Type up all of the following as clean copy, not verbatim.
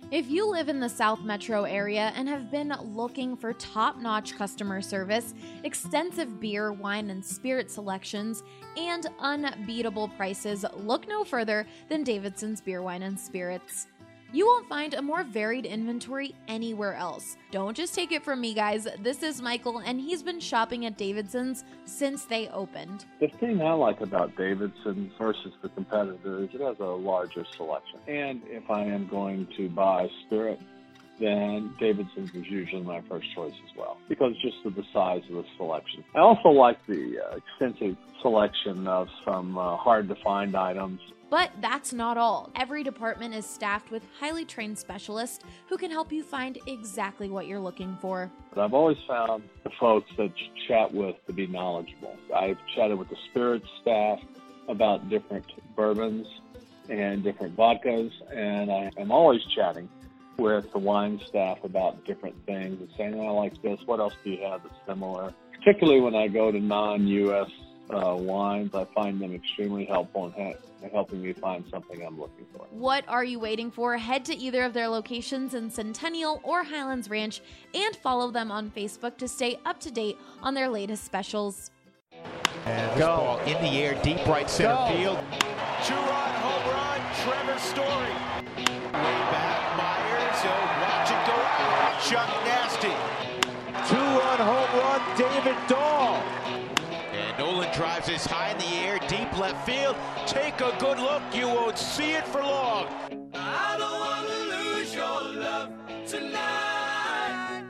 If you live in the South Metro area and have been looking for top-notch customer service, extensive beer, wine, and spirit selections, and unbeatable prices, look no further than Davidson's Beer, Wine, and Spirits. You won't find a more varied inventory anywhere else. Don't just take it from me, guys. This is Michael, and he's been shopping at Davidson's since they opened. The thing I like about Davidson's versus the competitor is it has a larger selection. And if I am going to buy spirit, then Davidson's is usually my first choice as well, because just of the size of the selection. I also like the extensive selection of some hard-to-find items. But that's not all. Every department is staffed with highly trained specialists who can help you find exactly what you're looking for. But I've always found the folks that you chat with to be knowledgeable. I've chatted with the spirits staff about different bourbons and different vodkas, and I am always chatting with the wine staff about different things and saying, I like this, what else do you have that's similar? Particularly when I go to non-U.S. wines, I find them extremely helpful in helping me find something I'm looking for. What are you waiting for? Head to either of their locations in Centennial or Highlands Ranch and follow them on Facebook to stay up to date on their latest specials. And this ball in the air, deep right center field. Two-run home run, Trevor Story. Way back, Myers, watch it go out. Chuck Nasty. Two-run home run, David Dahl. And Nolan drives this high in the air, deep left field. Take a good look, you won't see it for long. I don't want to lose your love tonight.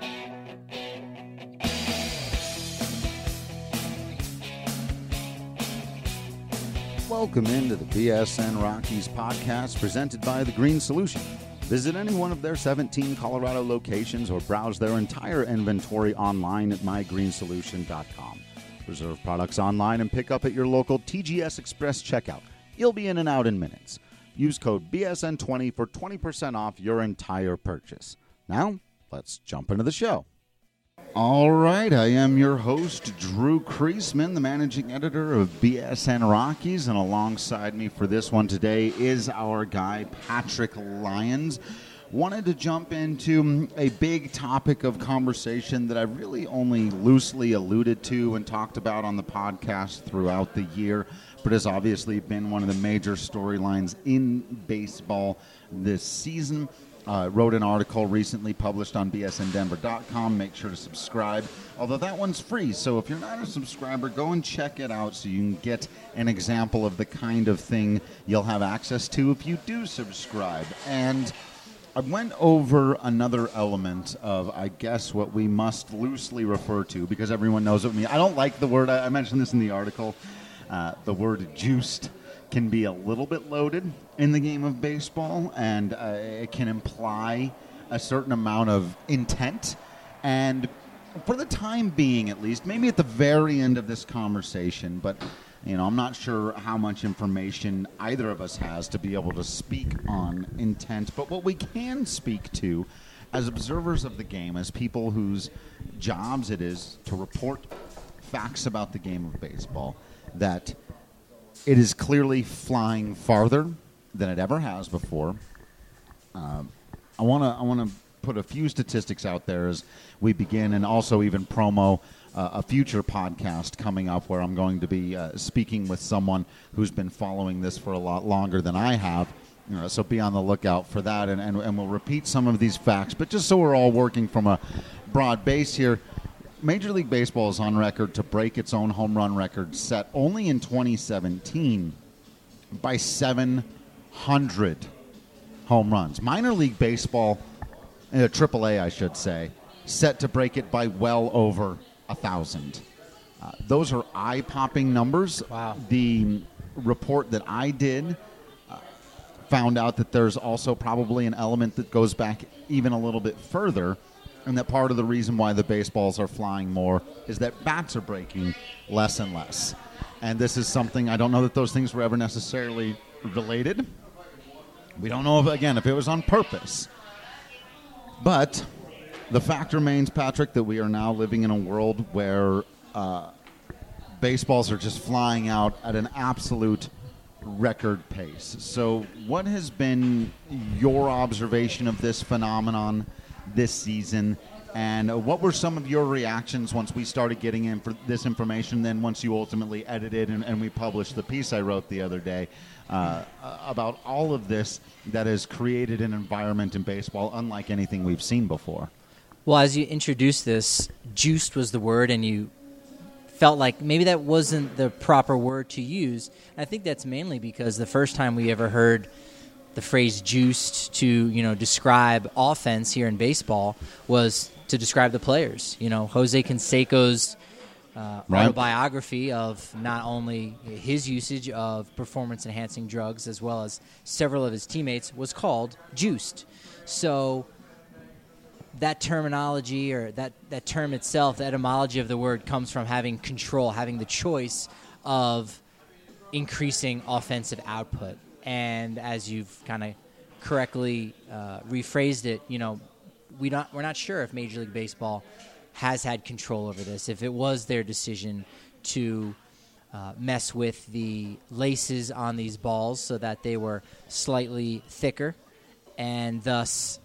Welcome into the BSN Rockies podcast presented by The Green Solution. Visit any one of their 17 Colorado locations or browse their entire inventory online at mygreensolution.com. Reserve products online and pick up at your local TGS Express checkout. You'll be in and out in minutes. Use code BSN20 for 20% off your entire purchase. Now, let's jump into the show. All right, I am your host, Drew Kreisman, the managing editor of BSN Rockies, and alongside me for this one today is our guy, Patrick Lyons. Wanted to jump into a big topic of conversation that I really only loosely alluded to and talked about on the podcast throughout the year, but has obviously been one of the major storylines in baseball this season. Wrote an article recently published on bsndenver.com. Make sure to subscribe, although that one's free. So if you're not a subscriber, go and check it out so you can get an example of the kind of thing you'll have access to if you do subscribe. And I went over another element of, I guess, what we must loosely refer to, because everyone knows what I mean. I don't like the word, I mentioned this in the article, the word juiced can be a little bit loaded in the game of baseball, and it can imply a certain amount of intent. And for the time being, at least, maybe at the very end of this conversation, but I'm not sure how much information either of us has to be able to speak on intent. But what we can speak to as observers of the game, as people whose jobs it is to report facts about the game of baseball, that it is clearly flying farther than it ever has before. I want to put a few statistics out there as we begin, and also even promo a future podcast coming up where I'm going to be speaking with someone who's been following this for a lot longer than I have. So be on the lookout for that, and we'll repeat some of these facts. But just so we're all working from a broad base here, Major League Baseball is on record to break its own home run record set only in 2017 by 700 home runs. Minor League Baseball, AAA I should say, set to break it by well over 1,000. Those are eye-popping numbers. Wow. The report that I did found out that there's also probably an element that goes back even a little bit further, and that part of the reason why the baseballs are flying more is that bats are breaking less and less. And this is something, I don't know that those things were ever necessarily related. We don't know, if it was on purpose. But the fact remains, Patrick, that we are now living in a world where baseballs are just flying out at an absolute record pace. So what has been your observation of this phenomenon this season, and what were some of your reactions once we started getting in for this information, then once you ultimately edited and we published the piece I wrote the other day about all of this that has created an environment in baseball unlike anything we've seen before? Well, as you introduced this, juiced was the word, and you felt like maybe that wasn't the proper word to use. And I think that's mainly because the first time we ever heard the phrase juiced to, describe offense here in baseball was to describe the players. Jose Canseco's autobiography of not only his usage of performance-enhancing drugs as well as several of his teammates was called juiced. So that terminology, or that term itself, the etymology of the word, comes from having control, having the choice of increasing offensive output. And as you've kind of correctly rephrased it, we're not sure if Major League Baseball has had control over this, if it was their decision to mess with the laces on these balls so that they were slightly thicker and thus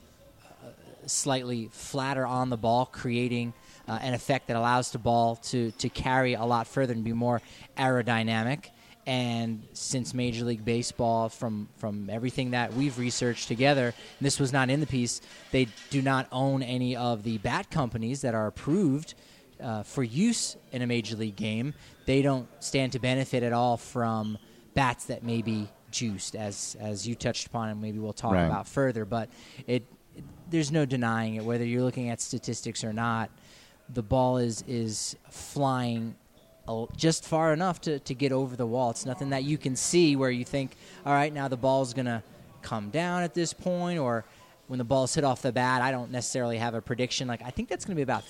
slightly flatter on the ball, creating an effect that allows the ball to carry a lot further and be more aerodynamic. And since Major League Baseball, from everything that we've researched together, and this was not in the piece, they do not own any of the bat companies that are approved for use in a Major League game. They don't stand to benefit at all from bats that may be juiced, as you touched upon, and maybe we'll talk about further. But there's no denying it, whether you're looking at statistics or not. The ball is flying just far enough to get over the wall. It's nothing that you can see where you think, all right, now the ball's going to come down at this point, or when the ball's hit off the bat, I don't necessarily have a prediction. I think that's going to be about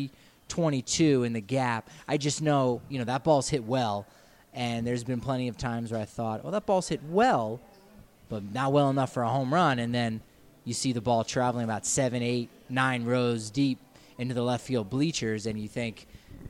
322 in the gap. I just know, that ball's hit well, and there's been plenty of times where I thought, that ball's hit well, but not well enough for a home run, and then you see the ball traveling about 7, 8, 9 rows deep into the left field bleachers, and you think,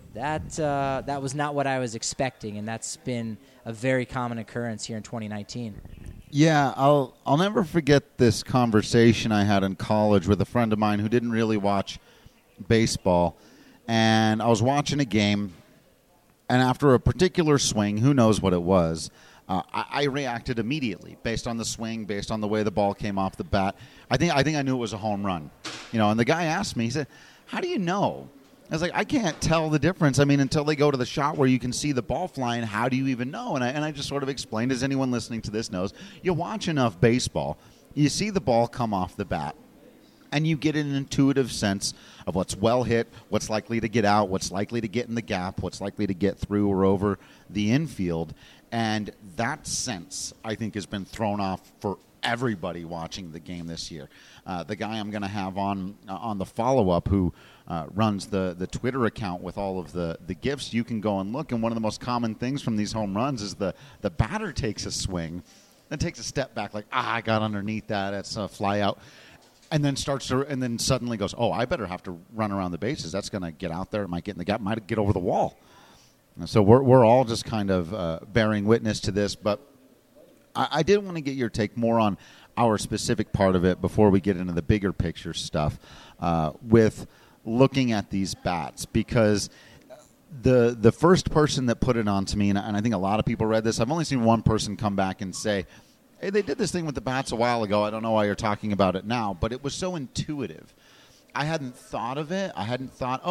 that was not what I was expecting, and that's been a very common occurrence here in 2019. Yeah, I'll never forget this conversation I had in college with a friend of mine who didn't really watch baseball, and I was watching a game, and after a particular swing, who knows what it was, I reacted immediately based on the swing, based on the way the ball came off the bat. I think I knew it was a home run, and the guy asked me, he said, "How do you know?" I was like, I can't tell the difference. I mean, until they go to the shot where you can see the ball flying, how do you even know? And I just sort of explained, as anyone listening to this knows, you watch enough baseball, you see the ball come off the bat, and you get an intuitive sense of what's well hit, what's likely to get out, what's likely to get in the gap, what's likely to get through or over the infield. And that sense, I think, has been thrown off for everybody watching the game this year. The guy I'm going to have on the follow-up who runs the Twitter account with all of the GIFs, you can go and look. And one of the most common things from these home runs is the batter takes a swing, then takes a step back like, I got underneath that, it's a fly out. And then suddenly goes, I better have to run around the bases. That's going to get out there. It might get in the gap. Might get over the wall. So we're all just kind of bearing witness to this. But I did want to get your take more on our specific part of it before we get into the bigger picture stuff with looking at these bats, because the first person that put it on to me, and I think a lot of people read this, I've only seen one person come back and say, hey, they did this thing with the bats a while ago. I don't know why you're talking about it now, but it was so intuitive. I hadn't thought of it. I hadn't thought,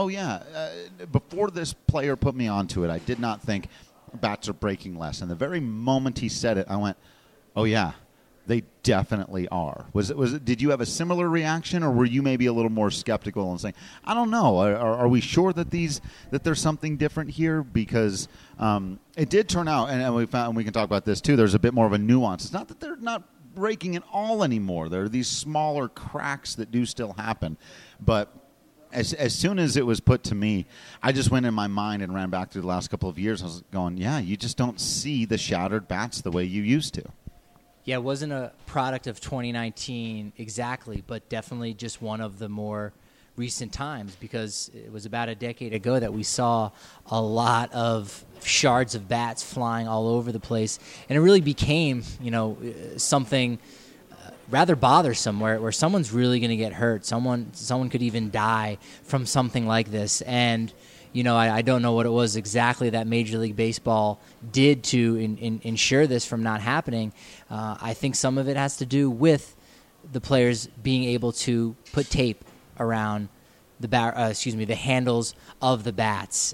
before this player put me onto it, I did not think bats are breaking less. And the very moment he said it, I went, oh, yeah, they definitely are. Was it? Did you have a similar reaction, or were you maybe a little more skeptical and saying, I don't know, are we sure that there's something different here? Because it did turn out, and we can talk about this too, there's a bit more of a nuance. It's not that they're not breaking at all anymore. There are these smaller cracks that do still happen. But as soon as it was put to me, I just went in my mind and ran back to the last couple of years. I was going, yeah, you just don't see the shattered bats the way you used to. Yeah, it wasn't a product of 2019 exactly, but definitely just one of the more recent times, because it was about a decade ago that we saw a lot of shards of bats flying all over the place, and it really became, something rather bothersome, where someone's really going to get hurt. Someone could even die from something like this. And I don't know what it was exactly that Major League Baseball did to ensure this from not happening. I think some of it has to do with the players being able to put tape around the handles of the bats.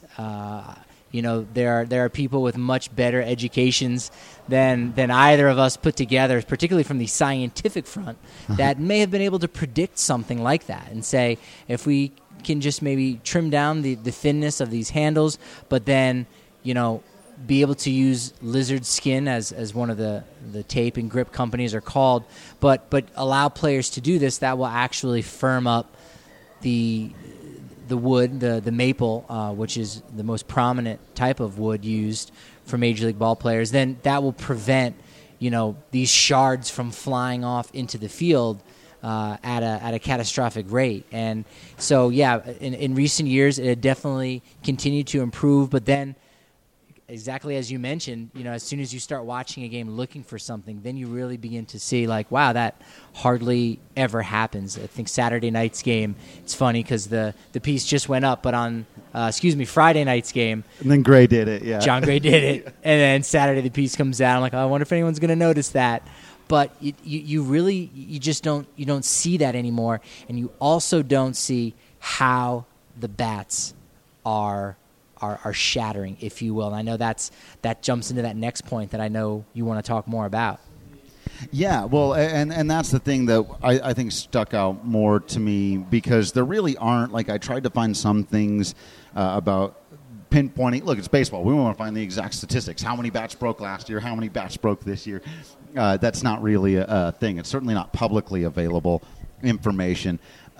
There are people with much better educations than either of us put together, particularly from the scientific front, that may have been able to predict something like that and say, if we can just maybe trim down the thinness of these handles, but then, be able to use lizard skin as one of the tape and grip companies are called, but allow players to do this, that will actually firm up the wood, the maple, which is the most prominent type of wood used for Major League ball players. Then that will prevent, these shards from flying off into the field at a catastrophic rate. And so, in recent years, it had definitely continued to improve. But then, exactly as you mentioned, as soon as you start watching a game looking for something, then you really begin to see, like, wow, that hardly ever happens. I think Saturday night's game, it's funny because the piece just went up, but on, Friday night's game. And then Gray did it, yeah. John Gray did it. And then Saturday the piece comes out. I'm like, I wonder if anyone's going to notice that. But you just don't see that anymore. And you also don't see how the bats are shattering, if you will. And I know that jumps into that next point that I know you want to talk more about. Yeah, well, and that's the thing that I think stuck out more to me, because there really aren't, like, I tried to find some things about pinpointing. Look, it's baseball. We want to find the exact statistics. How many bats broke last year? How many bats broke this year? That's not really a thing. It's certainly not publicly available information.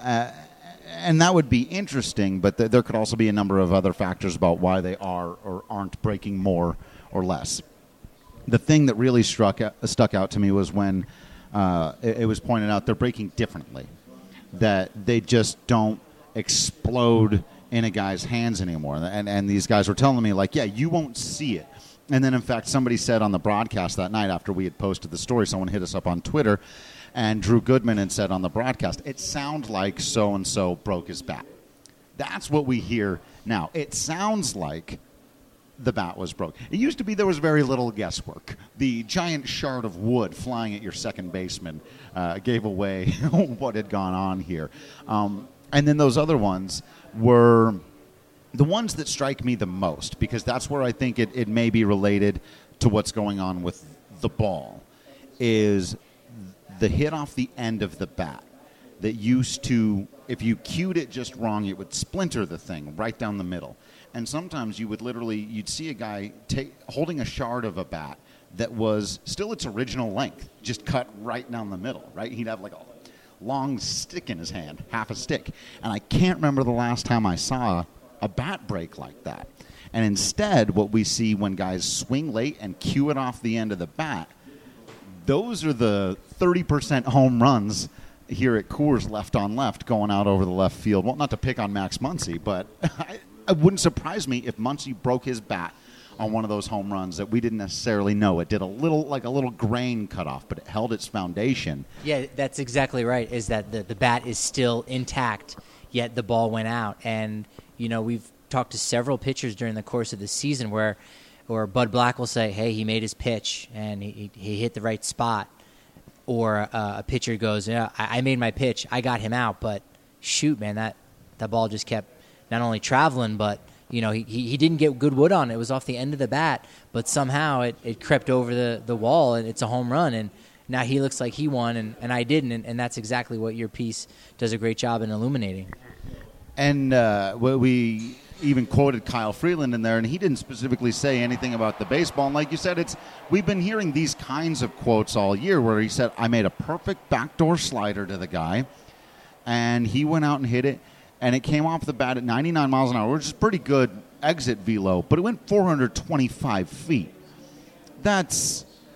And that would be interesting, but there could also be a number of other factors about why they are or aren't breaking more or less. The thing that really stuck out to me was when it was pointed out they're breaking differently, that they just don't explode in a guy's hands anymore. And these guys were telling me, like, yeah, you won't see it. And then, in fact, somebody said on the broadcast that night after we had posted the story, someone hit us up on Twitter, and Drew Goodman had said on the broadcast, it sounds like so-and-so broke his bat. That's what we hear now. It sounds like the bat was broke. It used to be there was very little guesswork. The giant shard of wood flying at your second baseman gave away what had gone on here. And then those other ones were the ones that strike me the most, because that's where I think it may be related to what's going on with the ball, is the hit off the end of the bat that used to, if you cued it just wrong, it would splinter the thing right down the middle. And sometimes you'd see a guy holding a shard of a bat that was still its original length, just cut right down the middle, right? He'd have like a long stick in his hand, half a stick. And I can't remember the last time I saw a bat break like that. And instead, what we see when guys swing late and cue it off the end of the bat, those are the 30% home runs here at Coors left on left going out over the left field. Well, not to pick on Max Muncy, but it wouldn't surprise me if Muncy broke his bat on one of those home runs that we didn't necessarily know. It did a little grain cut off, but it held its foundation. Yeah, that's exactly right, is that the bat is still intact, yet the ball went out. And, we've talked to several pitchers during the course of the season where Bud Black will say, hey, he made his pitch and he hit the right spot. Or a pitcher goes, yeah, I made my pitch, I got him out, but shoot, man, that ball just kept not only traveling, but he didn't get good wood on it. It was off the end of the bat, but somehow it crept over the wall, and it's a home run. And now he looks like he won, and I didn't. And that's exactly what your piece does a great job in illuminating. And we even quoted Kyle Freeland in there, and he didn't specifically say anything about the baseball. And like you said, we've been hearing these kinds of quotes all year where he said, I made a perfect backdoor slider to the guy, and he went out and hit it, and it came off the bat at 99 miles an hour, which is pretty good exit velo, but it went 425 feet. That's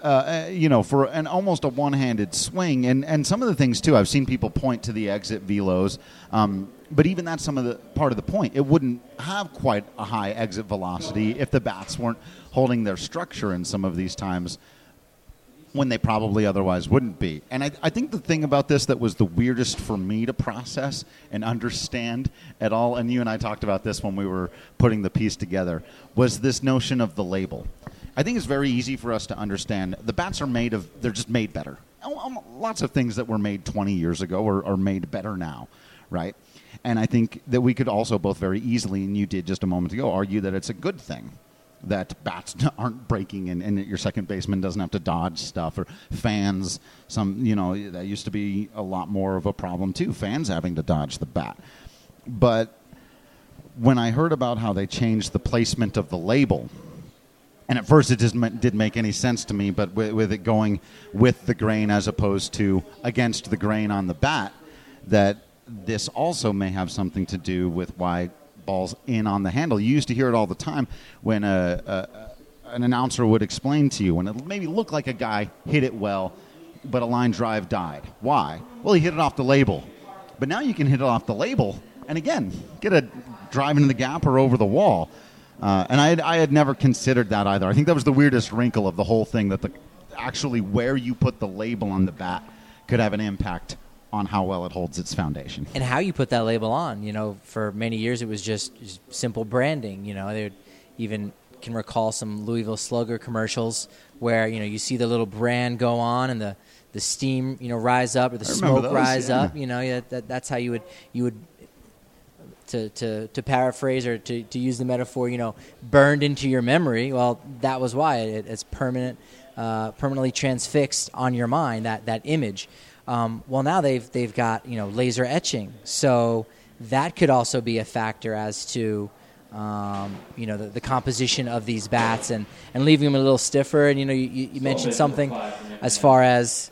for an almost a one-handed swing. And some of the things, too, I've seen people point to the exit velos, but even that's some of the part of the point. It wouldn't have quite a high exit velocity if the bats weren't holding their structure in some of these times when they probably otherwise wouldn't be. And I think the thing about this that was the weirdest for me to process and understand at all, and you and I talked about this when we were putting the piece together, was this notion of the label. I think it's very easy for us to understand. The bats are they're just made better. Lots of things that were made 20 years ago are made better now, right? And I think that we could also both very easily, and you did just a moment ago, argue that it's a good thing that bats aren't breaking and that your second baseman doesn't have to dodge stuff, or fans. That used to be a lot more of a problem too, fans having to dodge the bat. But when I heard about how they changed the placement of the label, and at first it just didn't make any sense to me, but with it going with the grain as opposed to against the grain on the bat, that this also may have something to do with why balls in on the handle. You used to hear it all the time when an announcer would explain to you, when it maybe looked like a guy hit it well, but a line drive died. Why? Well, he hit it off the label. But now you can hit it off the label and, again, get a drive into the gap or over the wall. And I had never considered that either. I think that was the weirdest wrinkle of the whole thing, that actually where you put the label on the bat could have an impact on how well it holds its foundation. And how you put that label on. For many years it was just simple branding. They even can recall some Louisville Slugger commercials where, you see the little brand go on and the steam, rise up, or the smoke rise up. That's how you would to paraphrase or to use the metaphor, burned into your memory. Well, that was why it's permanently transfixed on your mind, that image. Well, now they've got laser etching, so that could also be a factor as to the composition of these bats and leaving them a little stiffer. And you mentioned something as far as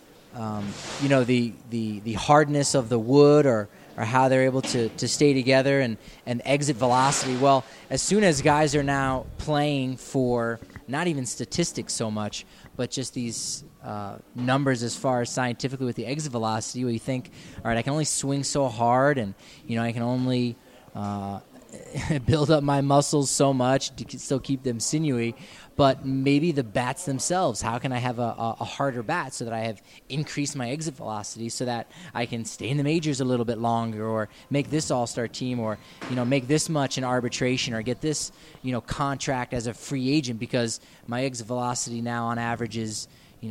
the hardness of the wood or how they're able to stay together and exit velocity. Well, as soon as guys are now playing for not even statistics so much, but just these numbers as far as scientifically with the exit velocity, where you think, all right, I can only swing so hard, and I can only build up my muscles so much to still keep them sinewy. But maybe the bats themselves, how can I have a harder bat so that I have increased my exit velocity so that I can stay in the majors a little bit longer, or make this all-star team, or make this much in arbitration, or get this contract as a free agent, because my exit velocity now on average is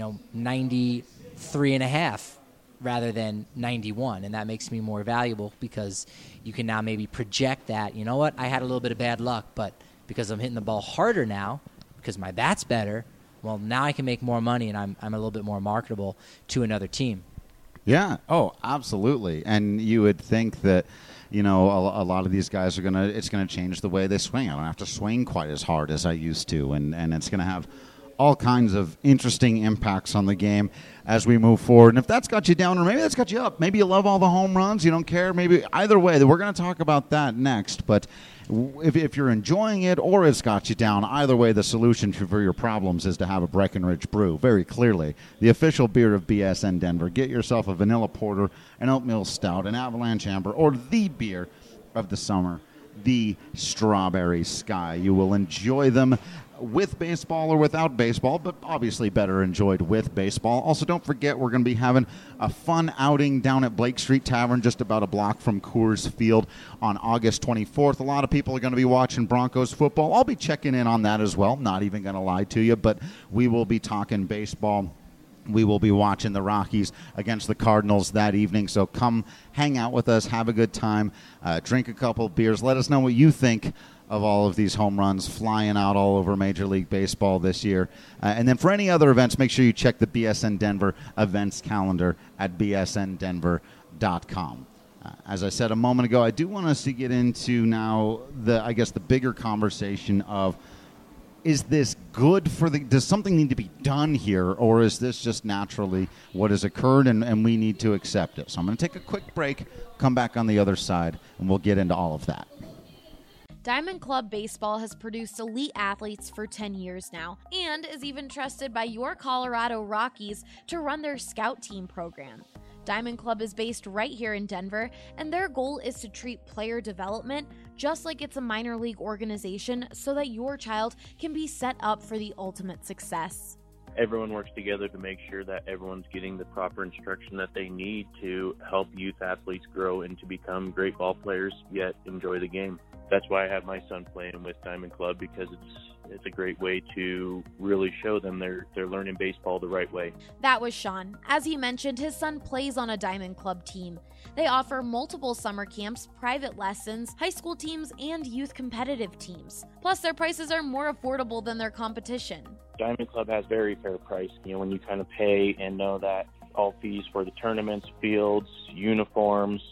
93.5 rather than 91, and that makes me more valuable because you can now maybe project that, I had a little bit of bad luck, but because I'm hitting the ball harder now, because my bat's better, well, now I can make more money, and I'm a little bit more marketable to another team. Yeah. Oh, absolutely. And you would think that, a lot of these guys it's going to change the way they swing. I don't have to swing quite as hard as I used to, and it's going to have all kinds of interesting impacts on the game as we move forward. And if that's got you down, or maybe that's got you up, maybe you love all the home runs, you don't care, maybe either way, we're going to talk about that next. But if you're enjoying it or it's got you down, either way, the solution for your problems is to have a Breckenridge Brew, very clearly. The official beer of BSN Denver. Get yourself a vanilla porter, an oatmeal stout, an avalanche amber, or the beer of the summer, the Strawberry Sky. You will enjoy them with baseball or without baseball, but obviously better enjoyed with baseball. Also, don't forget, we're going to be having a fun outing down at Blake Street Tavern, just about a block from Coors Field, on August 24th. A lot of people are going to be watching Broncos football. I'll be checking in on that as well, not even going to lie to you, but we will be talking baseball. We will be watching the Rockies against the Cardinals that evening, so come hang out with us, have a good time, drink a couple of beers. Let us know what you think of all of these home runs flying out all over Major League Baseball this year. And then for any other events, make sure you check the BSN Denver events calendar at bsndenver.com. As I said a moment ago, I do want us to get into now the bigger conversation of, is this good for does something need to be done here, or is this just naturally what has occurred and we need to accept it? So I'm going to take a quick break, come back on the other side, and we'll get into all of that. Diamond Club Baseball has produced elite athletes for 10 years now and is even trusted by your Colorado Rockies to run their scout team program. Diamond Club is based right here in Denver, and their goal is to treat player development just like it's a minor league organization so that your child can be set up for the ultimate success. Everyone works together to make sure that everyone's getting the proper instruction that they need to help youth athletes grow and to become great ball players, yet enjoy the game. That's why I have my son playing with Diamond Club, because it's a great way to really show them they're learning baseball the right way. That was Sean. As he mentioned, his son plays on a Diamond Club team. They offer multiple summer camps, private lessons, high school teams, and youth competitive teams. Plus, their prices are more affordable than their competition. Diamond Club has very fair price. When you kind of pay and know that all fees for the tournaments, fields, uniforms,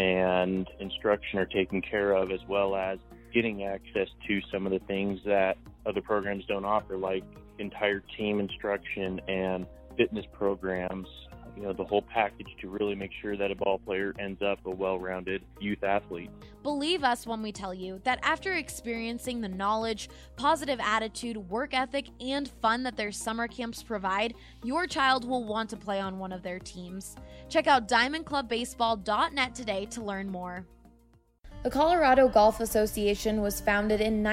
and instruction are taken care of, as well as getting access to some of the things that other programs don't offer, like entire team instruction and fitness programs, the whole package to really make sure that a ball player ends up a well-rounded youth athlete. Believe us when we tell you that after experiencing the knowledge, positive attitude, work ethic, and fun that their summer camps provide, your child will want to play on one of their teams. Check out diamondclubbaseball.net today to learn more. The Colorado Golf Association was founded in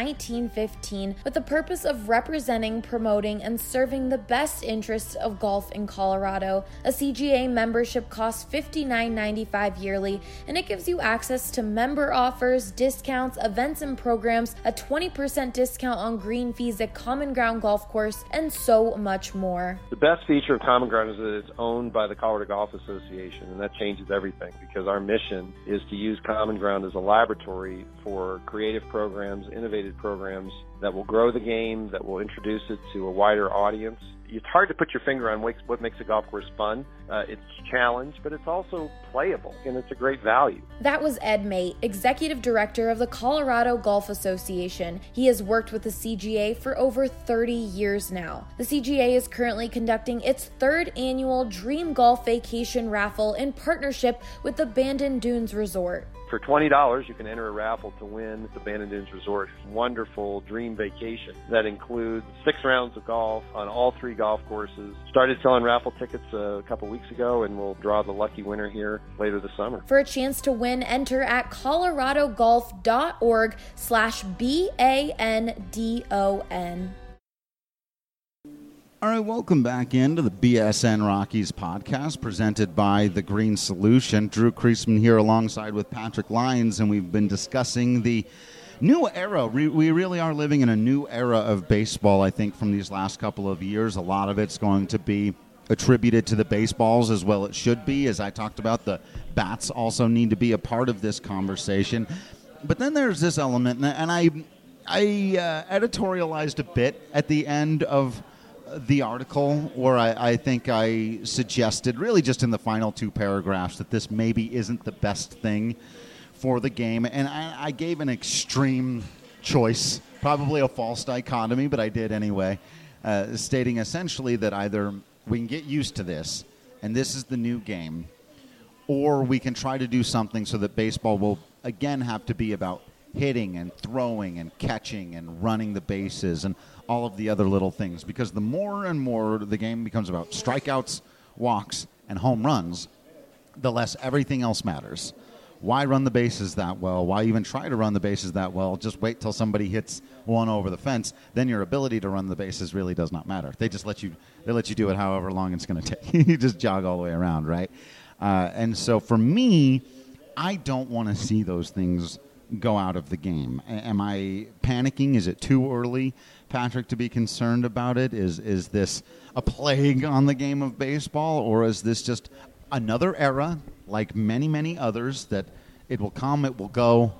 1915 with the purpose of representing, promoting, and serving the best interests of golf in Colorado. A CGA membership costs $59.95 yearly, and it gives you access to member offers, discounts, events and programs, a 20% discount on green fees at Common Ground Golf Course, and so much more. The best feature of Common Ground is that it's owned by the Colorado Golf Association, and that changes everything because our mission is to use Common Ground as a laboratory for creative programs, innovative programs that will grow the game, that will introduce it to a wider audience. It's hard to put your finger on what makes a golf course fun. It's a challenge, but it's also playable, and it's a great value. That was Ed Mate, Executive Director of the Colorado Golf Association. He has worked with the CGA for over 30 years now. The CGA is currently conducting its third annual Dream Golf Vacation Raffle in partnership with the Bandon Dunes Resort. For $20, you can enter a raffle to win the Bandon Dunes Resort wonderful dream vacation that includes 6 rounds of golf on all 3 golf courses. Started selling raffle tickets a couple weeks ago, and we'll draw the lucky winner here later this summer. For a chance to win, enter at coloradogolf.org/BANDON. All right, welcome back into the BSN Rockies podcast presented by The Green Solution. Drew Kreisman here alongside with Patrick Lyons, and we've been discussing the new era. We really are living in a new era of baseball, I think, from these last couple of years. A lot of it's going to be attributed to the baseballs, as well it should be. As I talked about, the bats also need to be a part of this conversation. But then there's this element, and I editorialized a bit at the end of the article where I think I suggested, really just in the final 2 paragraphs, that this maybe isn't the best thing for the game. And I gave an extreme choice, probably a false dichotomy, but I did anyway, stating essentially that either we can get used to this, and this is the new game, or we can try to do something so that baseball will again have to be about hitting and throwing and catching and running the bases and all of the other little things, because the more and more the game becomes about strikeouts, walks, and home runs, the less everything else matters. Why run the bases that well? Why even try to run the bases that well? Just wait till somebody hits one over the fence. Then your ability to run the bases really does not matter. They just let you do it however long it's going to take. You just jog all the way around, right? And so for me, I don't want to see those things go out of the game. Am I panicking? Is it too early, Patrick, to be concerned about it? Is this a plague on the game of baseball, or is this just another era, like many, many others, that it will come, it will go,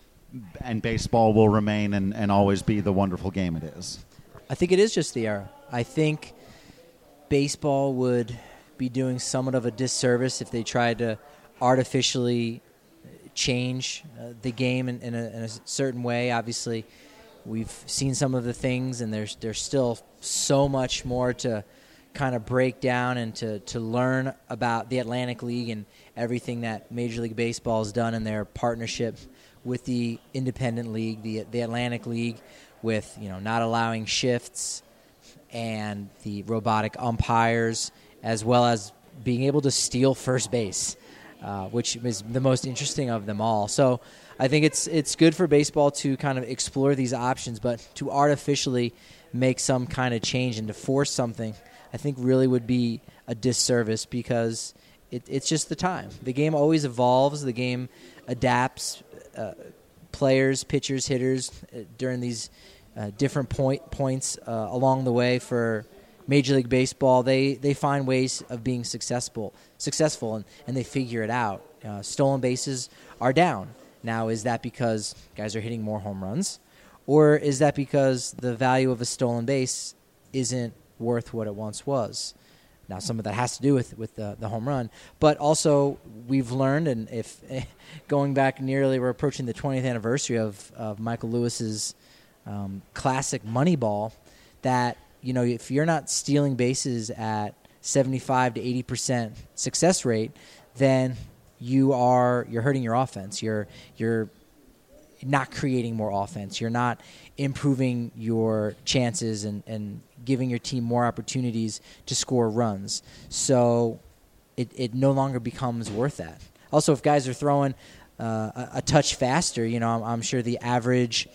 and baseball will remain and always be the wonderful game it is? I think it is just the era. I think baseball would be doing somewhat of a disservice if they tried to artificially change the game in a certain way. Obviously, we've seen some of the things, and there's still so much more to kind of break down and to learn about the Atlantic League and everything that Major League Baseball has done in their partnership with the independent league, the Atlantic League, with not allowing shifts and the robotic umpires, as well as being able to steal first base, which is the most interesting of them all. So I think it's good for baseball to kind of explore these options, but to artificially make some kind of change and to force something, I think really would be a disservice, because it's just the time. The game always evolves. The game adapts. Players, pitchers, hitters during these different points along the way for Major League Baseball, they find ways of being successful, and they figure it out. Stolen bases are down. Now, is that because guys are hitting more home runs? Or is that because the value of a stolen base isn't worth what it once was? Now, some of that has to do with the home run. But also, we've learned, and if going back nearly, we're approaching the 20th anniversary of Michael Lewis's classic Moneyball, that if you're not stealing bases at 75 to 80% success rate, then you're hurting your offense. You're not creating more offense. You're not improving your chances and giving your team more opportunities to score runs. So it no longer becomes worth that. Also, if guys are throwing a touch faster, I'm sure the average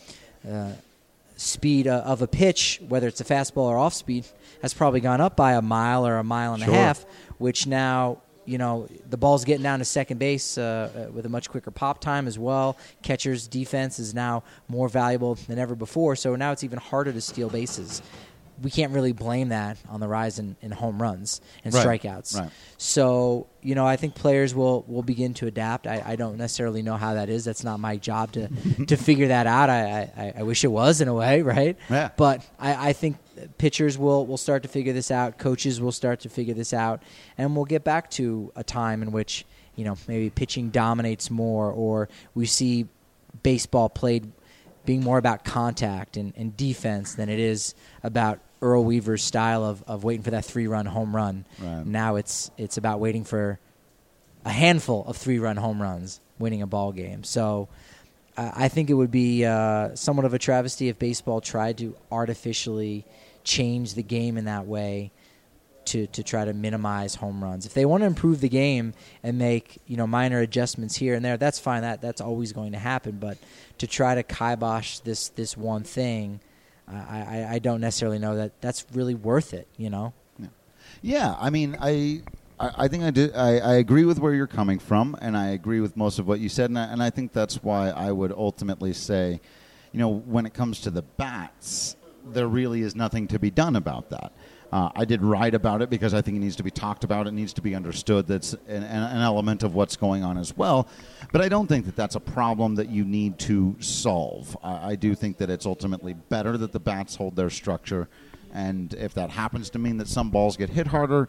speed of a pitch, whether it's a fastball or off speed, has probably gone up by a mile or a mile and a half, which now the ball's getting down to second base with a much quicker pop time as well. Catcher's defense is now more valuable than ever before, so now it's even harder to steal bases. We can't really blame that on the rise in home runs and strikeouts. Right. So, I think players will begin to adapt. I don't necessarily know how that is. That's not my job to figure that out. I wish it was, in a way, right? Yeah. But I think pitchers will start to figure this out. Coaches will start to figure this out. And we'll get back to a time in which, maybe pitching dominates more, or we see baseball played being more about contact and defense than it is about Earl Weaver's style of waiting for that 3-run home run. Right. Now it's about waiting for a handful of 3-run home runs, winning a ball game. So I think it would be somewhat of a travesty if baseball tried to artificially change the game in that way to try to minimize home runs. If they want to improve the game and make minor adjustments here and there, that's fine. That's always going to happen. But to try to kibosh this one thing, I don't necessarily know that that's really worth it. Yeah. I mean, I think I agree with where you're coming from, and I agree with most of what you said, and I think that's why I would ultimately say, when it comes to the bats, there really is nothing to be done about that. I did write about it because I think it needs to be talked about. It needs to be understood. That's an element of what's going on as well. But I don't think that that's a problem that you need to solve. I do think that it's ultimately better that the bats hold their structure. And if that happens to mean that some balls get hit harder,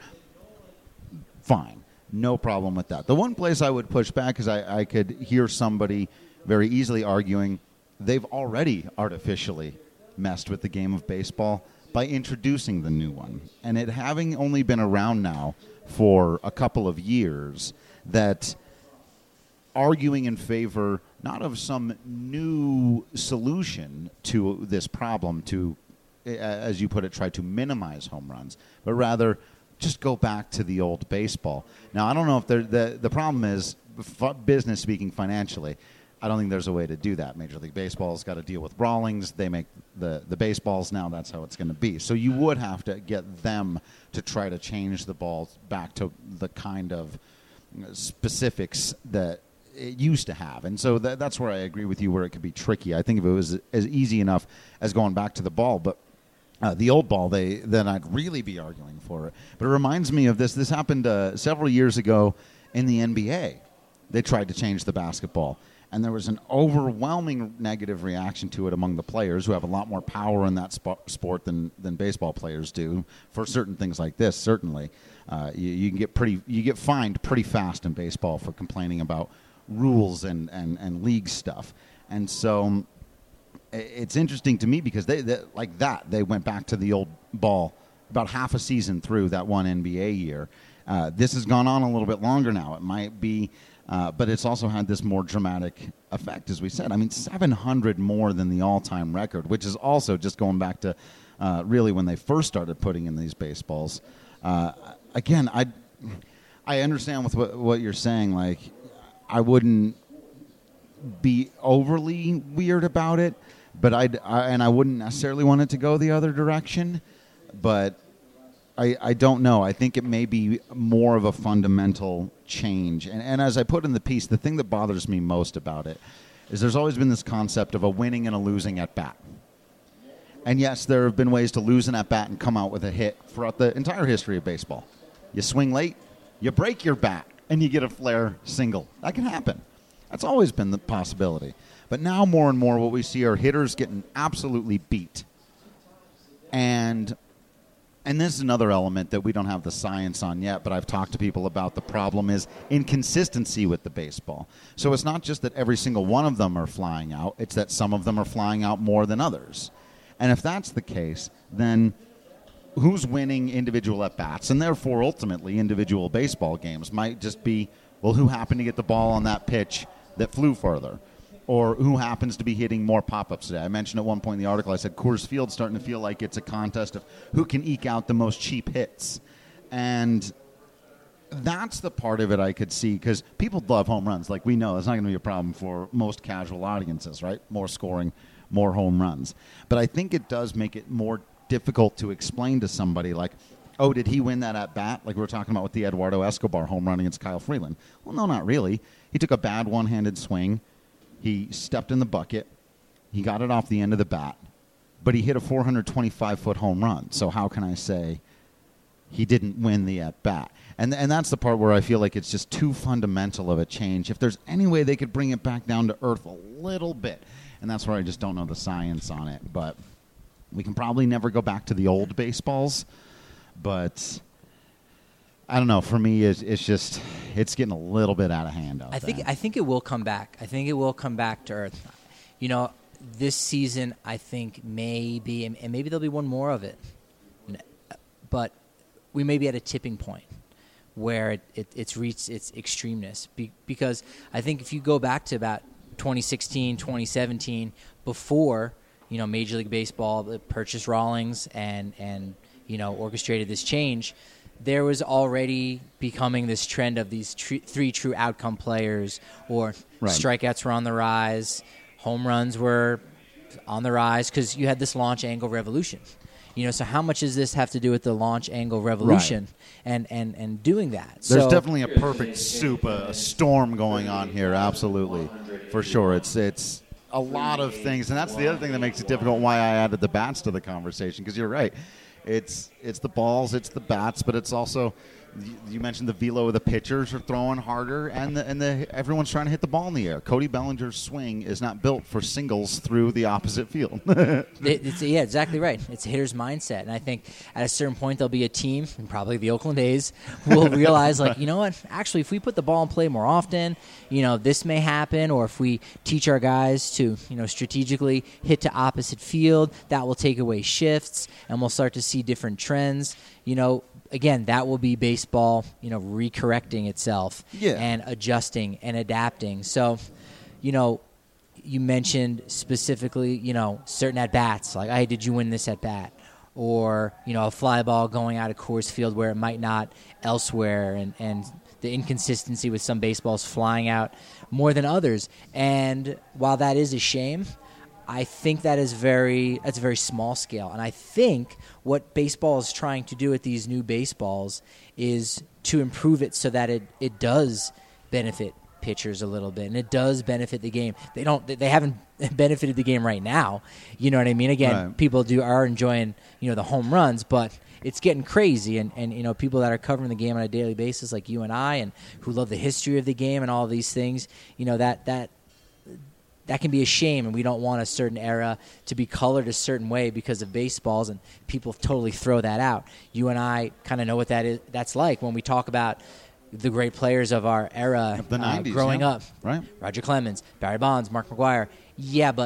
fine. No problem with that. The one place I would push back is I could hear somebody very easily arguing they've already artificially messed with the game of baseball by introducing the new one. And it having only been around now for a couple of years, that arguing in favor not of some new solution to this problem to, as you put it, try to minimize home runs, but rather just go back to the old baseball. Now, I don't know if the problem is, business speaking financially, I don't think there's a way to do that. Major League Baseball's got to deal with Rawlings. They make the baseballs now. That's how it's going to be. So you would have to get them to try to change the balls back to the kind of specifics that it used to have. And so that's where I agree with you, where it could be tricky. I think if it was as easy enough as going back to the ball, but the old ball, then I'd really be arguing for it. But it reminds me of this. This happened several years ago in the NBA. They tried to change the basketball. And there was an overwhelming negative reaction to it among the players, who have a lot more power in that sport than baseball players do for certain things like this. Certainly, you get fined pretty fast in baseball for complaining about rules and league stuff. And so it's interesting to me because they went back to the old ball about half a season through that one NBA year. This has gone on a little bit longer now. It might be, but it's also had this more dramatic effect, as we said. I mean, 700 more than the all-time record, which is also just going back to really when they first started putting in these baseballs. Again, I understand with what you're saying. Like, I wouldn't be overly weird about it, but I wouldn't necessarily want it to go the other direction. But I don't know. I think it may be more of a fundamental change. And as I put in the piece, the thing that bothers me most about it is there's always been this concept of a winning and a losing at bat. And yes, there have been ways to lose an at bat and come out with a hit throughout the entire history of baseball. You swing late, you break your bat, and you get a flare single. That can happen. That's always been the possibility. But now more and more what we see are hitters getting absolutely beat. And this is another element that we don't have the science on yet, but I've talked to people about. The problem is inconsistency with the baseball. So it's not just that every single one of them are flying out. It's that some of them are flying out more than others. And if that's the case, then who's winning individual at-bats, and therefore ultimately individual baseball games, might just be, well, who happened to get the ball on that pitch that flew further, or who happens to be hitting more pop-ups today. I mentioned at one point in the article, I said Coors Field's starting to feel like it's a contest of who can eke out the most cheap hits. And that's the part of it I could see, because people love home runs. Like, we know it's not going to be a problem for most casual audiences, right? More scoring, more home runs. But I think it does make it more difficult to explain to somebody, like, oh, did he win that at bat? Like we were talking about with the Eduardo Escobar home run against Kyle Freeland. Well, no, not really. He took a bad one-handed swing. He stepped in the bucket. He got it off the end of the bat. But he hit a 425-foot home run. So how can I say he didn't win the at-bat? And that's the part where I feel like it's just too fundamental of a change. If there's any way they could bring it back down to earth a little bit. And that's where I just don't know the science on it. But we can probably never go back to the old baseballs. But I don't know. For me, it's getting a little bit out of hand out there. I think it will come back. I think it will come back to earth. You know, this season, I think maybe, and maybe there'll be one more of it. But we may be at a tipping point where it's reached its extremeness. Because I think if you go back to about 2016, 2017, before, you know, Major League Baseball purchased Rawlings and you know, orchestrated this change, there was already becoming this trend of these three true outcome players, or strikeouts were on the rise, home runs were on the rise, because you had this launch angle revolution. You know, so how much does this have to do with the launch angle revolution and doing that? There's definitely a perfect soup, a storm going on here, absolutely, for sure. It's a lot of things, and that's the other thing that makes it difficult, why I added the bats to the conversation, because you're right. It's the balls, it's the bats, but it's also, you mentioned the velo of the pitchers are throwing harder, and everyone's trying to hit the ball in the air. Cody Bellinger's swing is not built for singles through the opposite field. Yeah, exactly right. It's a hitter's mindset, and I think at a certain point there'll be a team, and probably the Oakland A's, will realize, like, you know what? Actually, if we put the ball in play more often, you know, this may happen. Or if we teach our guys to, you know, strategically hit to opposite field, that will take away shifts, and we'll start to see different trends. You know, again, that will be baseball, you know, recorrecting itself and adjusting and adapting. So, you know, you mentioned specifically, you know, certain at-bats, like, hey, did you win this at-bat? Or, you know, a fly ball going out of Coors Field where it might not elsewhere, and the inconsistency with some baseballs flying out more than others. And while that is a shame, I think that's a very small scale. And I think what baseball is trying to do with these new baseballs is to improve it so that it does benefit pitchers a little bit, and it does benefit the game. They haven't benefited the game right now. You know what I mean? Again, people are enjoying, you know, the home runs, but it's getting crazy, and you know, people that are covering the game on a daily basis, like you and I, and who love the history of the game and all these things, you know, that can be a shame, and we don't want a certain era to be colored a certain way because of baseballs, and people totally throw that out. You and I kind of know what that's like when we talk about the great players of our era, of the 90s, growing up. Right. Roger Clemens, Barry Bonds, Mark McGwire. Yeah, but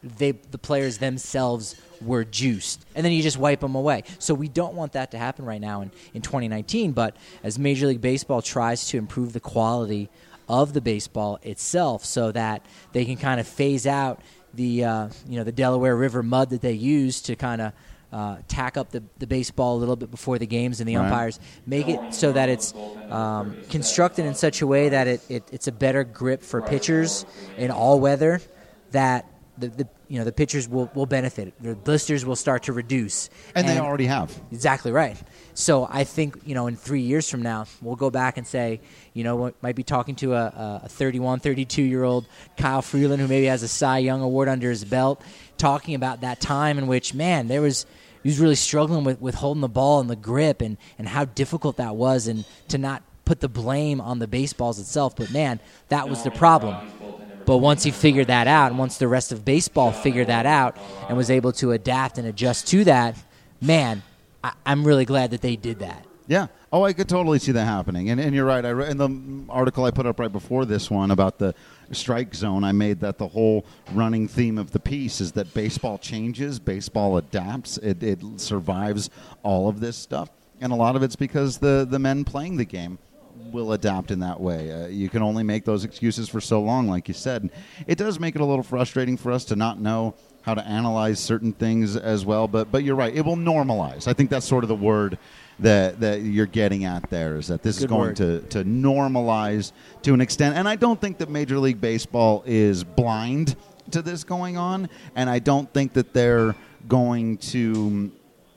the players themselves were juiced, and then you just wipe them away. So we don't want that to happen right now in 2019, but as Major League Baseball tries to improve the quality of the baseball itself so that they can kind of phase out the the Delaware River mud that they use to kind of tack up the baseball a little bit before the games, and the umpires make it so that it's constructed in such a way that it's a better grip for pitchers in all weather, that the pitchers will benefit. The blisters will start to reduce. And they already have. Exactly right. So I think, in 3 years from now, we'll go back and say, we might be talking to a 31, 32-year-old Kyle Freeland who maybe has a Cy Young Award under his belt, talking about that time in which, man, he was really struggling with holding the ball and the grip and how difficult that was, and to not put the blame on the baseballs itself. But, man, that was the problem. But once he figured that out, and once the rest of baseball figured that out and was able to adapt and adjust to that, man, I'm really glad that they did that. Yeah. Oh, I could totally see that happening. And you're right. In the article I put up right before this one about the strike zone, I made that the whole running theme of the piece is that baseball changes, baseball adapts, it survives all of this stuff. And a lot of it's because the men playing the game will adapt in that way. You can only make those excuses for so long, like you said. It does make it a little frustrating for us to not know how to analyze certain things as well, but you're right. It will normalize. I think that's sort of the word that you're getting at there, is that this is going to normalize to an extent. And I don't think that Major League Baseball is blind to this going on, and I don't think that they're going to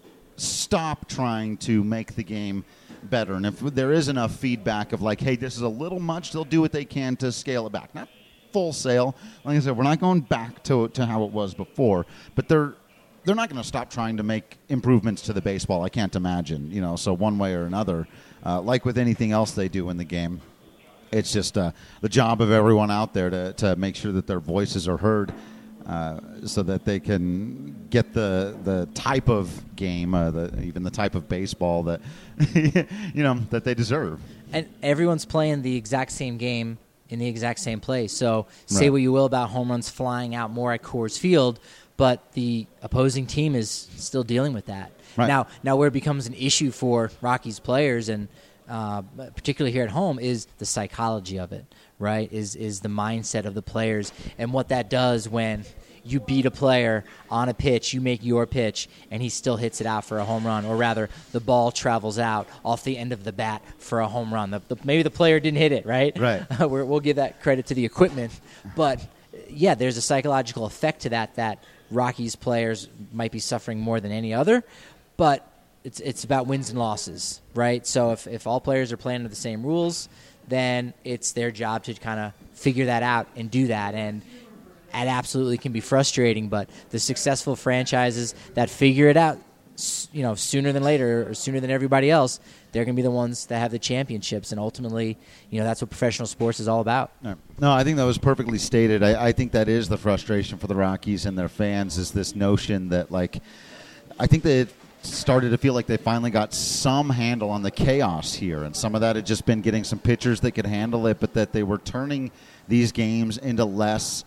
stop trying to make the game better. And if there is enough feedback of like, hey, this is a little much, they'll do what they can to scale it back. Not full sail. Like I said, we're not going back to how it was before, but they're not going to stop trying to make improvements to the baseball, I can't imagine. So one way or another, like with anything else they do in the game, it's just the job of everyone out there to make sure that their voices are heard, so that they can get the type of game, even the type of baseball that that they deserve. And everyone's playing the exact same game in the exact same place. So say what you will about home runs flying out more at Coors Field, but the opposing team is still dealing with that. Right. Now where it becomes an issue for Rockies players, and particularly here at home, is the psychology of it, right? Is the mindset of the players, and what that does when you beat a player on a pitch, you make your pitch, and he still hits it out for a home run, or rather the ball travels out off the end of the bat for a home run. Maybe the player didn't hit it, right? Right. We'll give that credit to the equipment. But, yeah, there's a psychological effect to that Rockies players might be suffering more than any other. But it's about wins and losses, right? So if all players are playing under the same rules, then it's their job to kind of figure that out and do that. And it absolutely can be frustrating, but the successful franchises that figure it out, sooner than later, or sooner than everybody else, they're going to be the ones that have the championships. And ultimately, that's what professional sports is all about. No, I think that was perfectly stated. I think that is the frustration for the Rockies and their fans, is this notion that, I think that it started to feel like they finally got some handle on the chaos here, and some of that had just been getting some pitchers that could handle it, but that they were turning these games into less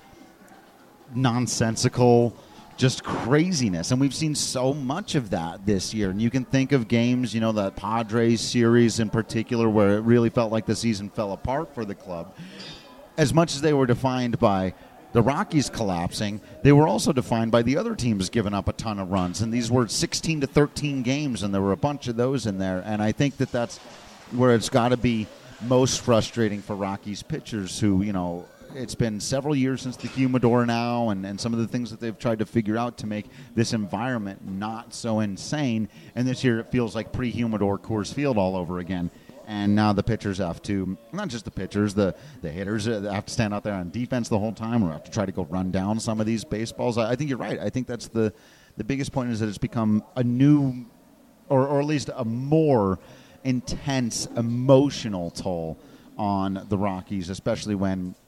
nonsensical, just craziness. And we've seen so much of that this year. And you can think of games, that Padres series in particular, where it really felt like the season fell apart for the club. As much as they were defined by the Rockies collapsing, they were also defined by the other teams giving up a ton of runs. And these were 16-13 games, and there were a bunch of those in there. And I think that that's where it's got to be most frustrating for Rockies pitchers who, it's been several years since the humidor now, and some of the things that they've tried to figure out to make this environment not so insane. And this year it feels like pre-humidor Coors Field all over again. And now the pitchers have to, not just the pitchers, the hitters have to stand out there on defense the whole time, or have to try to go run down some of these baseballs. I think you're right. I think that's the biggest point, is that it's become a new, or at least a more intense emotional toll on the Rockies, especially when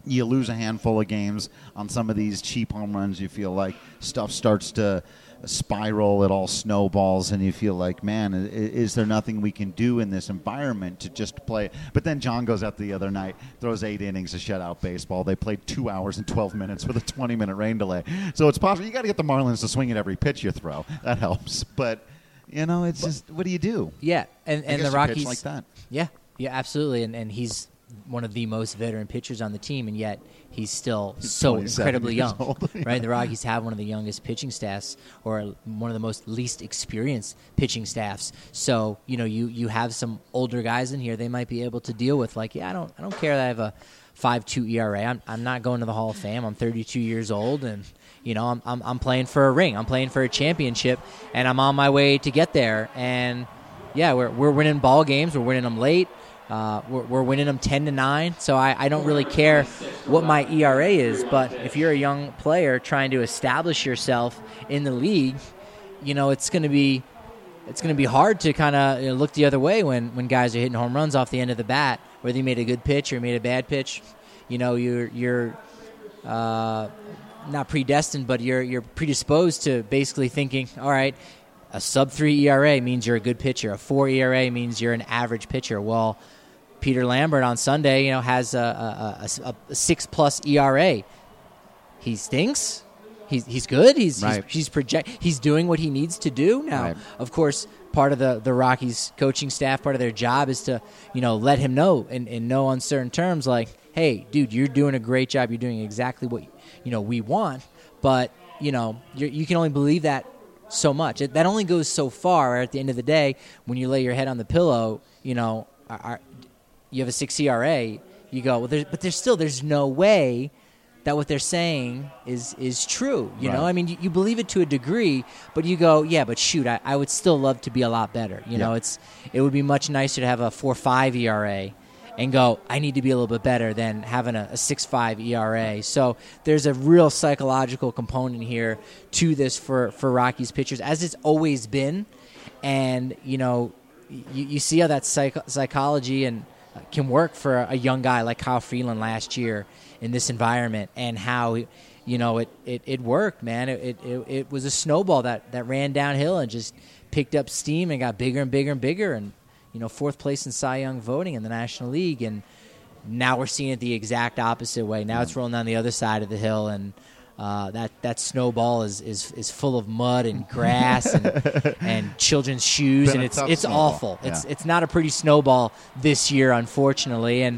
you lose a handful of games on some of these cheap home runs. You feel like stuff starts to spiral, it all snowballs, and you feel like, man, is there nothing we can do in this environment to just play? But then John goes out the other night, throws 8 innings of shutout baseball. They played 2 hours and 12 minutes with a 20-minute rain delay. So it's possible. You got to get the Marlins to swing at every pitch you throw. That helps. But, it's just, what do you do? Yeah, and the Rockies pitch like that. Yeah, absolutely. And he's one of the most veteran pitchers on the team, and yet he's still so incredibly young, right? The Rockies have one of the youngest pitching staffs, or one of the most least experienced pitching staffs. So you have some older guys in here. They might be able to deal with I don't care that I have a 5.2 ERA. I'm not going to the Hall of Fame. I'm 32 years old, and I'm playing for a ring. I'm playing for a championship, and I'm on my way to get there. And yeah, we're winning ball games. We're winning them late. We're winning them 10-9, so I don't really care what my ERA is. But if you're a young player trying to establish yourself in the league, it's going to be hard to kind of look the other way when guys are hitting home runs off the end of the bat, whether you made a good pitch or made a bad pitch. You're not predestined, but you're predisposed to basically thinking, all right, a sub-3 ERA means you're a good pitcher. A 4 ERA means you're an average pitcher. Well, Peter Lambert on Sunday, has a 6+ ERA. He stinks. He's good. He's doing what he needs to do now. Right. Of course, part of the Rockies coaching staff, part of their job is to let him know in no uncertain terms, like, hey, dude, you're doing a great job. You're doing exactly what we want. But you can only believe that so much. That only goes so far. At the end of the day, when you lay your head on the pillow, you have a 6 ERA. You go, well, there's no way that what they're saying is true. You know, I mean, you believe it to a degree, but you go, yeah, but shoot, I would still love to be a lot better. It would be much nicer to have a 4.5 ERA and go, I need to be a little bit better than having a 6.5 ERA. So there's a real psychological component here to this for Rockies pitchers, as it's always been. And, you see how that psychology and can work for a young guy like Kyle Freeland last year in this environment, and how it worked, man. It was a snowball that ran downhill and just picked up steam and got bigger and bigger and bigger, and fourth place in Cy Young voting in the National League. And now we're seeing it the exact opposite way. Now it's rolling down the other side of the hill, and that snowball is full of mud and grass and children's shoes, and it's awful. Yeah. It's not a pretty snowball this year, unfortunately, and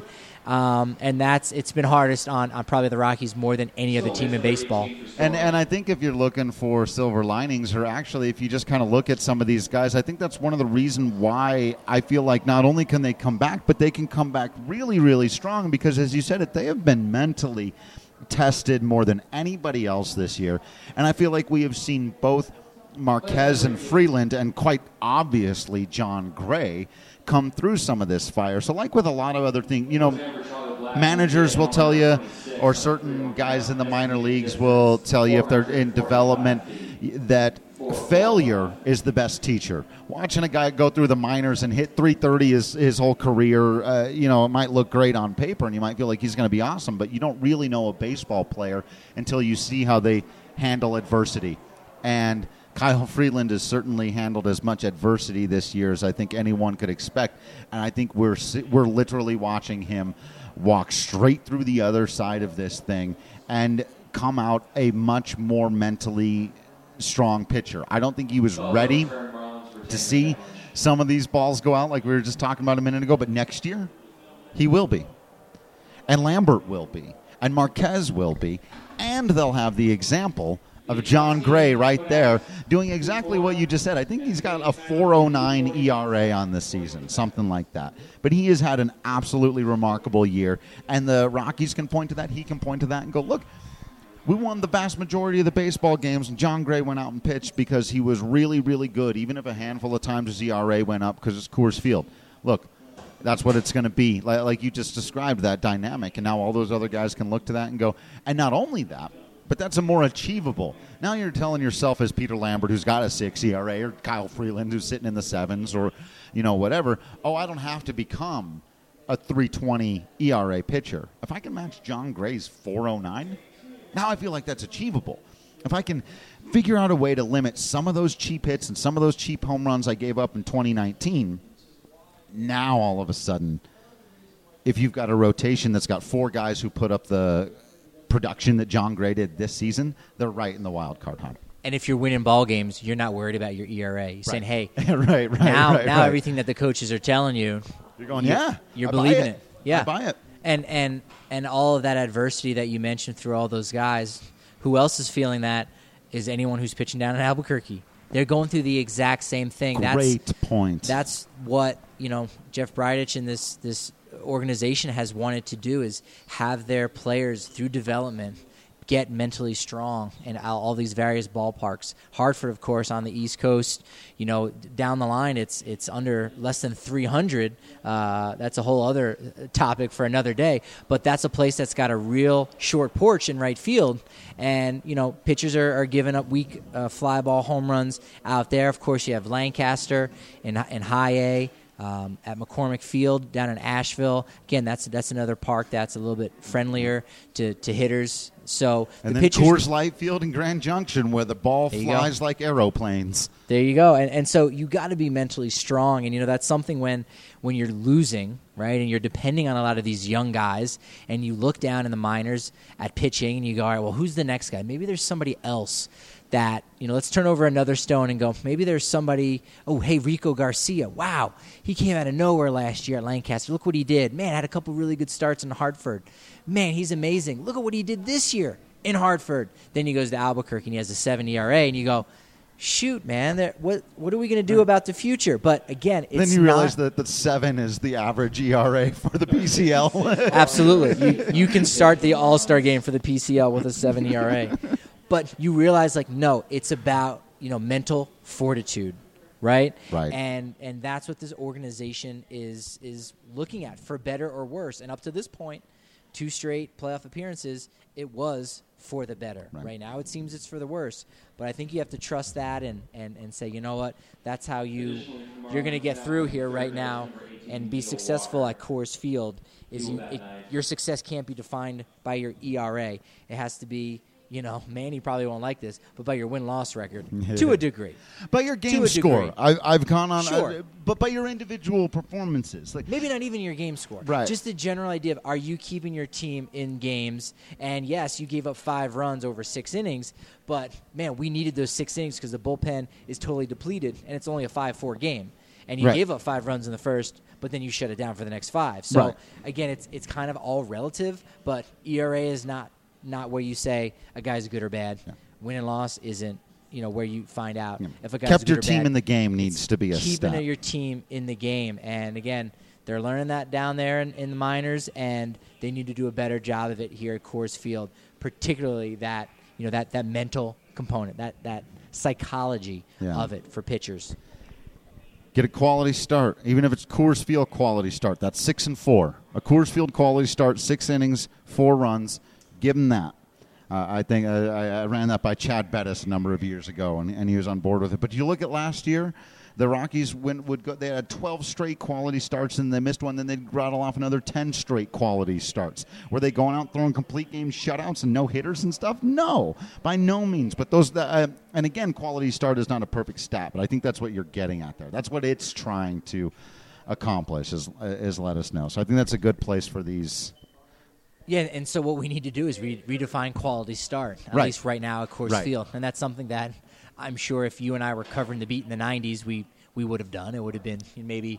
it's been hardest on probably the Rockies more than any other team in baseball. And I think if you're looking for silver linings, or actually if you just kind of look at some of these guys, I think that's one of the reasons why I feel like not only can they come back, but they can come back really, really strong, because as you said it, they have been mentally tested more than anybody else this year. And I feel like we have seen both Marquez and Freeland, and quite obviously John Gray, come through some of this fire. So like with a lot of other things, managers will tell you, or certain guys in the minor leagues will tell you if they're in development, that failure is the best teacher. Watching a guy go through the minors and hit 330 his whole career, it might look great on paper and you might feel like he's going to be awesome, but you don't really know a baseball player until you see how they handle adversity. And Kyle Freeland has certainly handled as much adversity this year as I think anyone could expect, and I think we're literally watching him walk straight through the other side of this thing and come out a much more mentally strong pitcher. I don't think he was ready to see some of these balls go out like we were just talking about a minute ago, but next year he will be, and Lambert will be, and Marquez will be, and they'll have the example of John Gray right there doing exactly what you just said. I think he's got a 4.09 ERA on this season, something like that. But he has had an absolutely remarkable year, and the Rockies can point to that. He can point to that and go, look, we won the vast majority of the baseball games, and John Gray went out and pitched because he was really, really good, even if a handful of times his ERA went up because it's Coors Field. Look, that's what it's going to be. Like you just described, that dynamic, and now all those other guys can look to that and go, and not only that, but that's a more achievable. Now you're telling yourself, as Peter Lambert, who's got a 6 ERA, or Kyle Freeland, who's sitting in the 7s, or whatever, I don't have to become a 3.20 ERA pitcher. If I can match John Gray's 4.09, now I feel like that's achievable. If I can figure out a way to limit some of those cheap hits and some of those cheap home runs I gave up in 2019, now all of a sudden, if you've got a rotation that's got 4 guys who put up the production that John Gray did this season, they're right in the wild card hunt. And if you're winning ball games, you're not worried about your ERA. You're saying, hey, right, now everything that the coaches are telling you, you're going, you're believing it. Yeah, I buy it. And all of that adversity that you mentioned through all those guys, who else is feeling that is anyone who's pitching down in Albuquerque. They're going through the exact same thing. Great point. That's what, Jeff Bridich and this organization has wanted to do, is have their players through development get mentally strong in all these various ballparks. Hartford, of course, on the East Coast, down the line, it's under less than 300. That's a whole other topic for another day. But that's a place that's got a real short porch in right field. And, pitchers are giving up weak fly ball home runs out there. Of course, you have Lancaster in high A. At McCormick Field down in Asheville. Again, that's another park that's a little bit friendlier to hitters. So and the then pitchers, Coors Light Field in Grand Junction, where the ball flies like aeroplanes. There you go. And so you got to be mentally strong. And, that's something when you're losing, right, and you're depending on a lot of these young guys, and you look down in the minors at pitching, and you go, all right, well, who's the next guy? Maybe there's somebody else that, let's turn over another stone and go, maybe there's somebody, Rico Garcia. Wow, he came out of nowhere last year at Lancaster. Look what he did. Man, had a couple really good starts in Hartford. Man, he's amazing. Look at what he did this year in Hartford. Then he goes to Albuquerque, and he has a 7 ERA, and you go, shoot, man, what are we going to do about the future? But, again, it's then you realize that the 7 is the average ERA for the PCL. Absolutely. You can start the All-Star game for the PCL with a 7 ERA. But you realize, no, it's about, mental fortitude, right? Right. And that's what this organization is looking at, for better or worse. And up to this point, 2 straight playoff appearances, it was for the better. Right now it seems it's for the worse. But I think you have to trust that and say, you know what, that's how you're going to get through here right now and be successful at Coors Field. Your success can't be defined by your ERA. It has to be, Manny probably won't like this, but by your win-loss record, to a degree. By your game score. I've gone on, sure. But by your individual performances. Maybe not even your game score. Right. Just the general idea of, are you keeping your team in games? And, yes, you gave up 5 runs over 6 innings, but, man, we needed those 6 innings because the bullpen is totally depleted, and it's only a 5-4 game. And you gave up 5 runs in the first, but then you shut it down for the next 5. So, again, it's kind of all relative, but ERA is not where you say a guy's good or bad. Yeah. Win and loss isn't, where you find out if a guy's kept good your or team bad. In the game needs to be a keeping step. Your team in the game. And, again, they're learning that down there in the minors, and they need to do a better job of it here at Coors Field, particularly that, that mental component, that psychology of it for pitchers. Get a quality start, even if it's Coors Field quality start. That's 6-4. A Coors Field quality start, 6 innings, 4 runs. Give him that. I think I ran that by Chad Bettis a number of years ago, and he was on board with it. But you look at last year, the Rockies they had 12 straight quality starts, and they missed one. Then they'd rattle off another 10 straight quality starts. Were they going out throwing complete game shutouts and no hitters and stuff? No, by no means. But those, and again, quality start is not a perfect stat, but I think that's what you're getting at there. That's what it's trying to accomplish is let us know. So I think that's a good place for these. Yeah, and so what we need to do is redefine quality start, at least right now at Coors Field. And that's something that I'm sure if you and I were covering the beat in the 90s, we would have done. It would have been maybe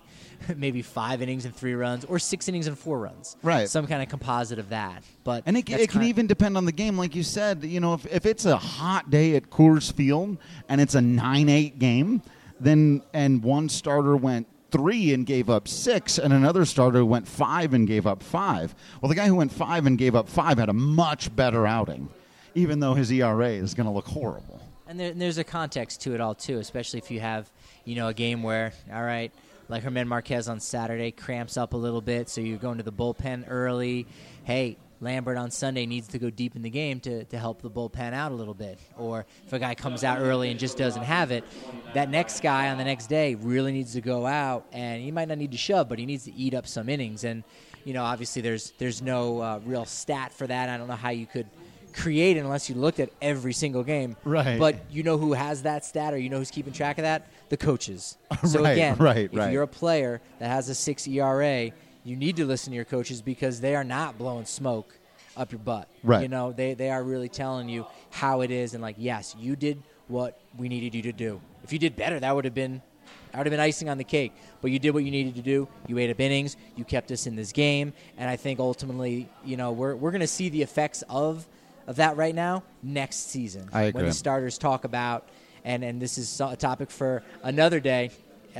5 innings and 3 runs or 6 innings and 4 runs. Right. Some kind of composite of that. But and it can even depend on the game. Like you said, if it's a hot day at Coors Field and it's a 9-8 game, and one starter went 3 and gave up 6, and another starter went 5 and gave up 5. Well, the guy who went 5 and gave up 5 had a much better outing, even though his ERA is going to look horrible. And there's a context to it all, too, especially if you have, a game where, all right, like Germán Marquez on Saturday cramps up a little bit, so you're going to the bullpen early. Hey, Lambert on Sunday needs to go deep in the game to help the bullpen out a little bit. Or if a guy comes out early and just doesn't have it, that next guy on the next day really needs to go out, and he might not need to shove, but he needs to eat up some innings. And, obviously there's no real stat for that. I don't know how you could create it unless you looked at every single game. Right. But who has that stat, or who's keeping track of that? The coaches. So if you're a player that has a 6 ERA, you need to listen to your coaches because they are not blowing smoke up your butt. Right. They are really telling you how it is, and yes, you did what we needed you to do. If you did better, that would have been icing on the cake. But you did what you needed to do. You ate up innings. You kept us in this game, and I think ultimately, we're going to see the effects of that right now next season. I agree. When the starters talk about, and this is a topic for another day.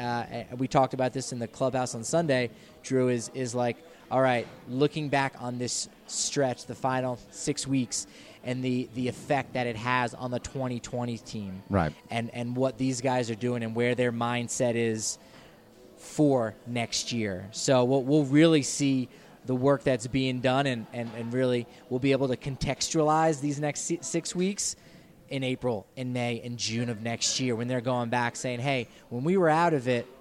We talked about this in the clubhouse on Sunday. Drew is like, all right, looking back on this stretch, the final 6 weeks, and the effect that it has on the 2020 team. Right. And what these guys are doing and where their mindset is for next year. So we'll really see the work that's being done, and really we'll be able to contextualize these next 6 weeks in April, in May, and June of next year when they're going back saying, hey, when we were out of it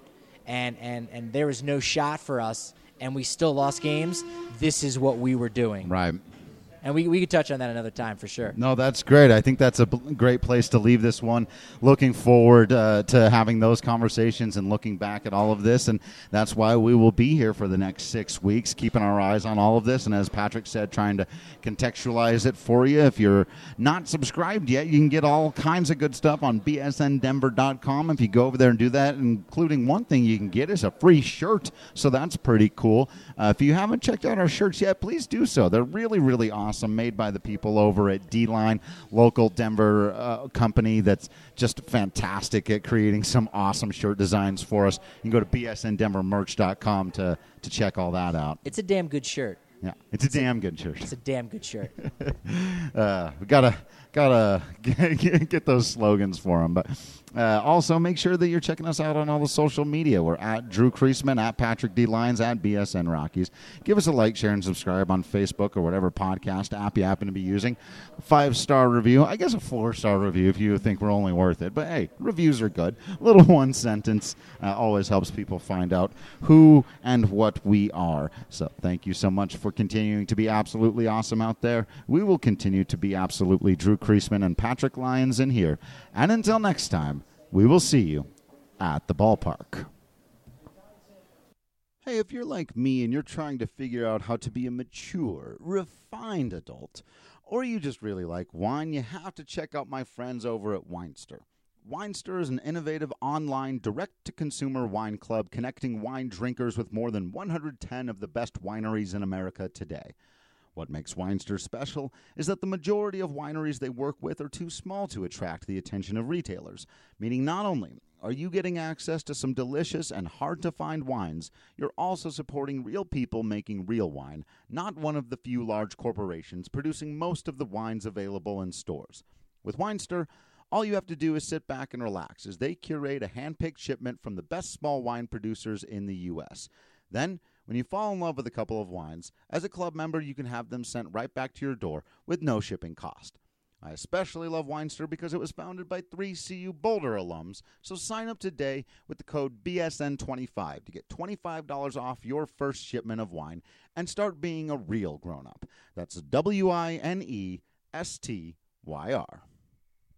and there was no shot for us and we still lost games, this is what we were doing. Right. And we could touch on that another time for sure. No, that's great. I think that's a great place to leave this one. Looking forward to having those conversations and looking back at all of this. And that's why we will be here for the next 6 weeks, keeping our eyes on all of this. And as Patrick said, trying to contextualize it for you. If you're not subscribed yet, you can get all kinds of good stuff on bsndenver.com. If you go over there and do that, including one thing you can get is a free shirt. So that's pretty cool. If you haven't checked out our shirts yet, please do so. They're really, really awesome. Made by the people over at D-Line, local Denver company that's just fantastic at creating some awesome shirt designs for us. You can go to bsndenvermerch.com to check all that out. It's a damn good shirt. Yeah, it's a damn good shirt. It's a damn good shirt. We gotta get those slogans for them. But also make sure that you're checking us out on all the social media. We're at Drew Creasman, at Patrick D. Lyons, at BSN Rockies. Give us a like, share, and subscribe on Facebook or whatever podcast app you happen to be using. 5-star review. I guess a 4-star review if you think we're only worth it. But hey, reviews are good. A little one sentence always helps people find out who and what we are. So thank you so much for continuing to be absolutely awesome out there. We will continue to be absolutely Drew Creasman and Patrick Lyons in here. And until next time, we will see you at the ballpark. Hey, if you're like me and you're trying to figure out how to be a mature, refined adult, or you just really like wine, you have to check out my friends over at Winester. Winester is an innovative online direct-to-consumer wine club connecting wine drinkers with more than 110 of the best wineries in America today. What makes Winester special is that the majority of wineries they work with are too small to attract the attention of retailers, meaning not only are you getting access to some delicious and hard-to-find wines, you're also supporting real people making real wine, not one of the few large corporations producing most of the wines available in stores. With Winester, all you have to do is sit back and relax as they curate a hand-picked shipment from the best small wine producers in the U.S. Then, when you fall in love with a couple of wines, as a club member, you can have them sent right back to your door with no shipping cost. I especially love Winester because it was founded by 3 CU Boulder alums, so sign up today with the code BSN25 to get $25 off your first shipment of wine and start being a real grown-up. That's WINESTYR.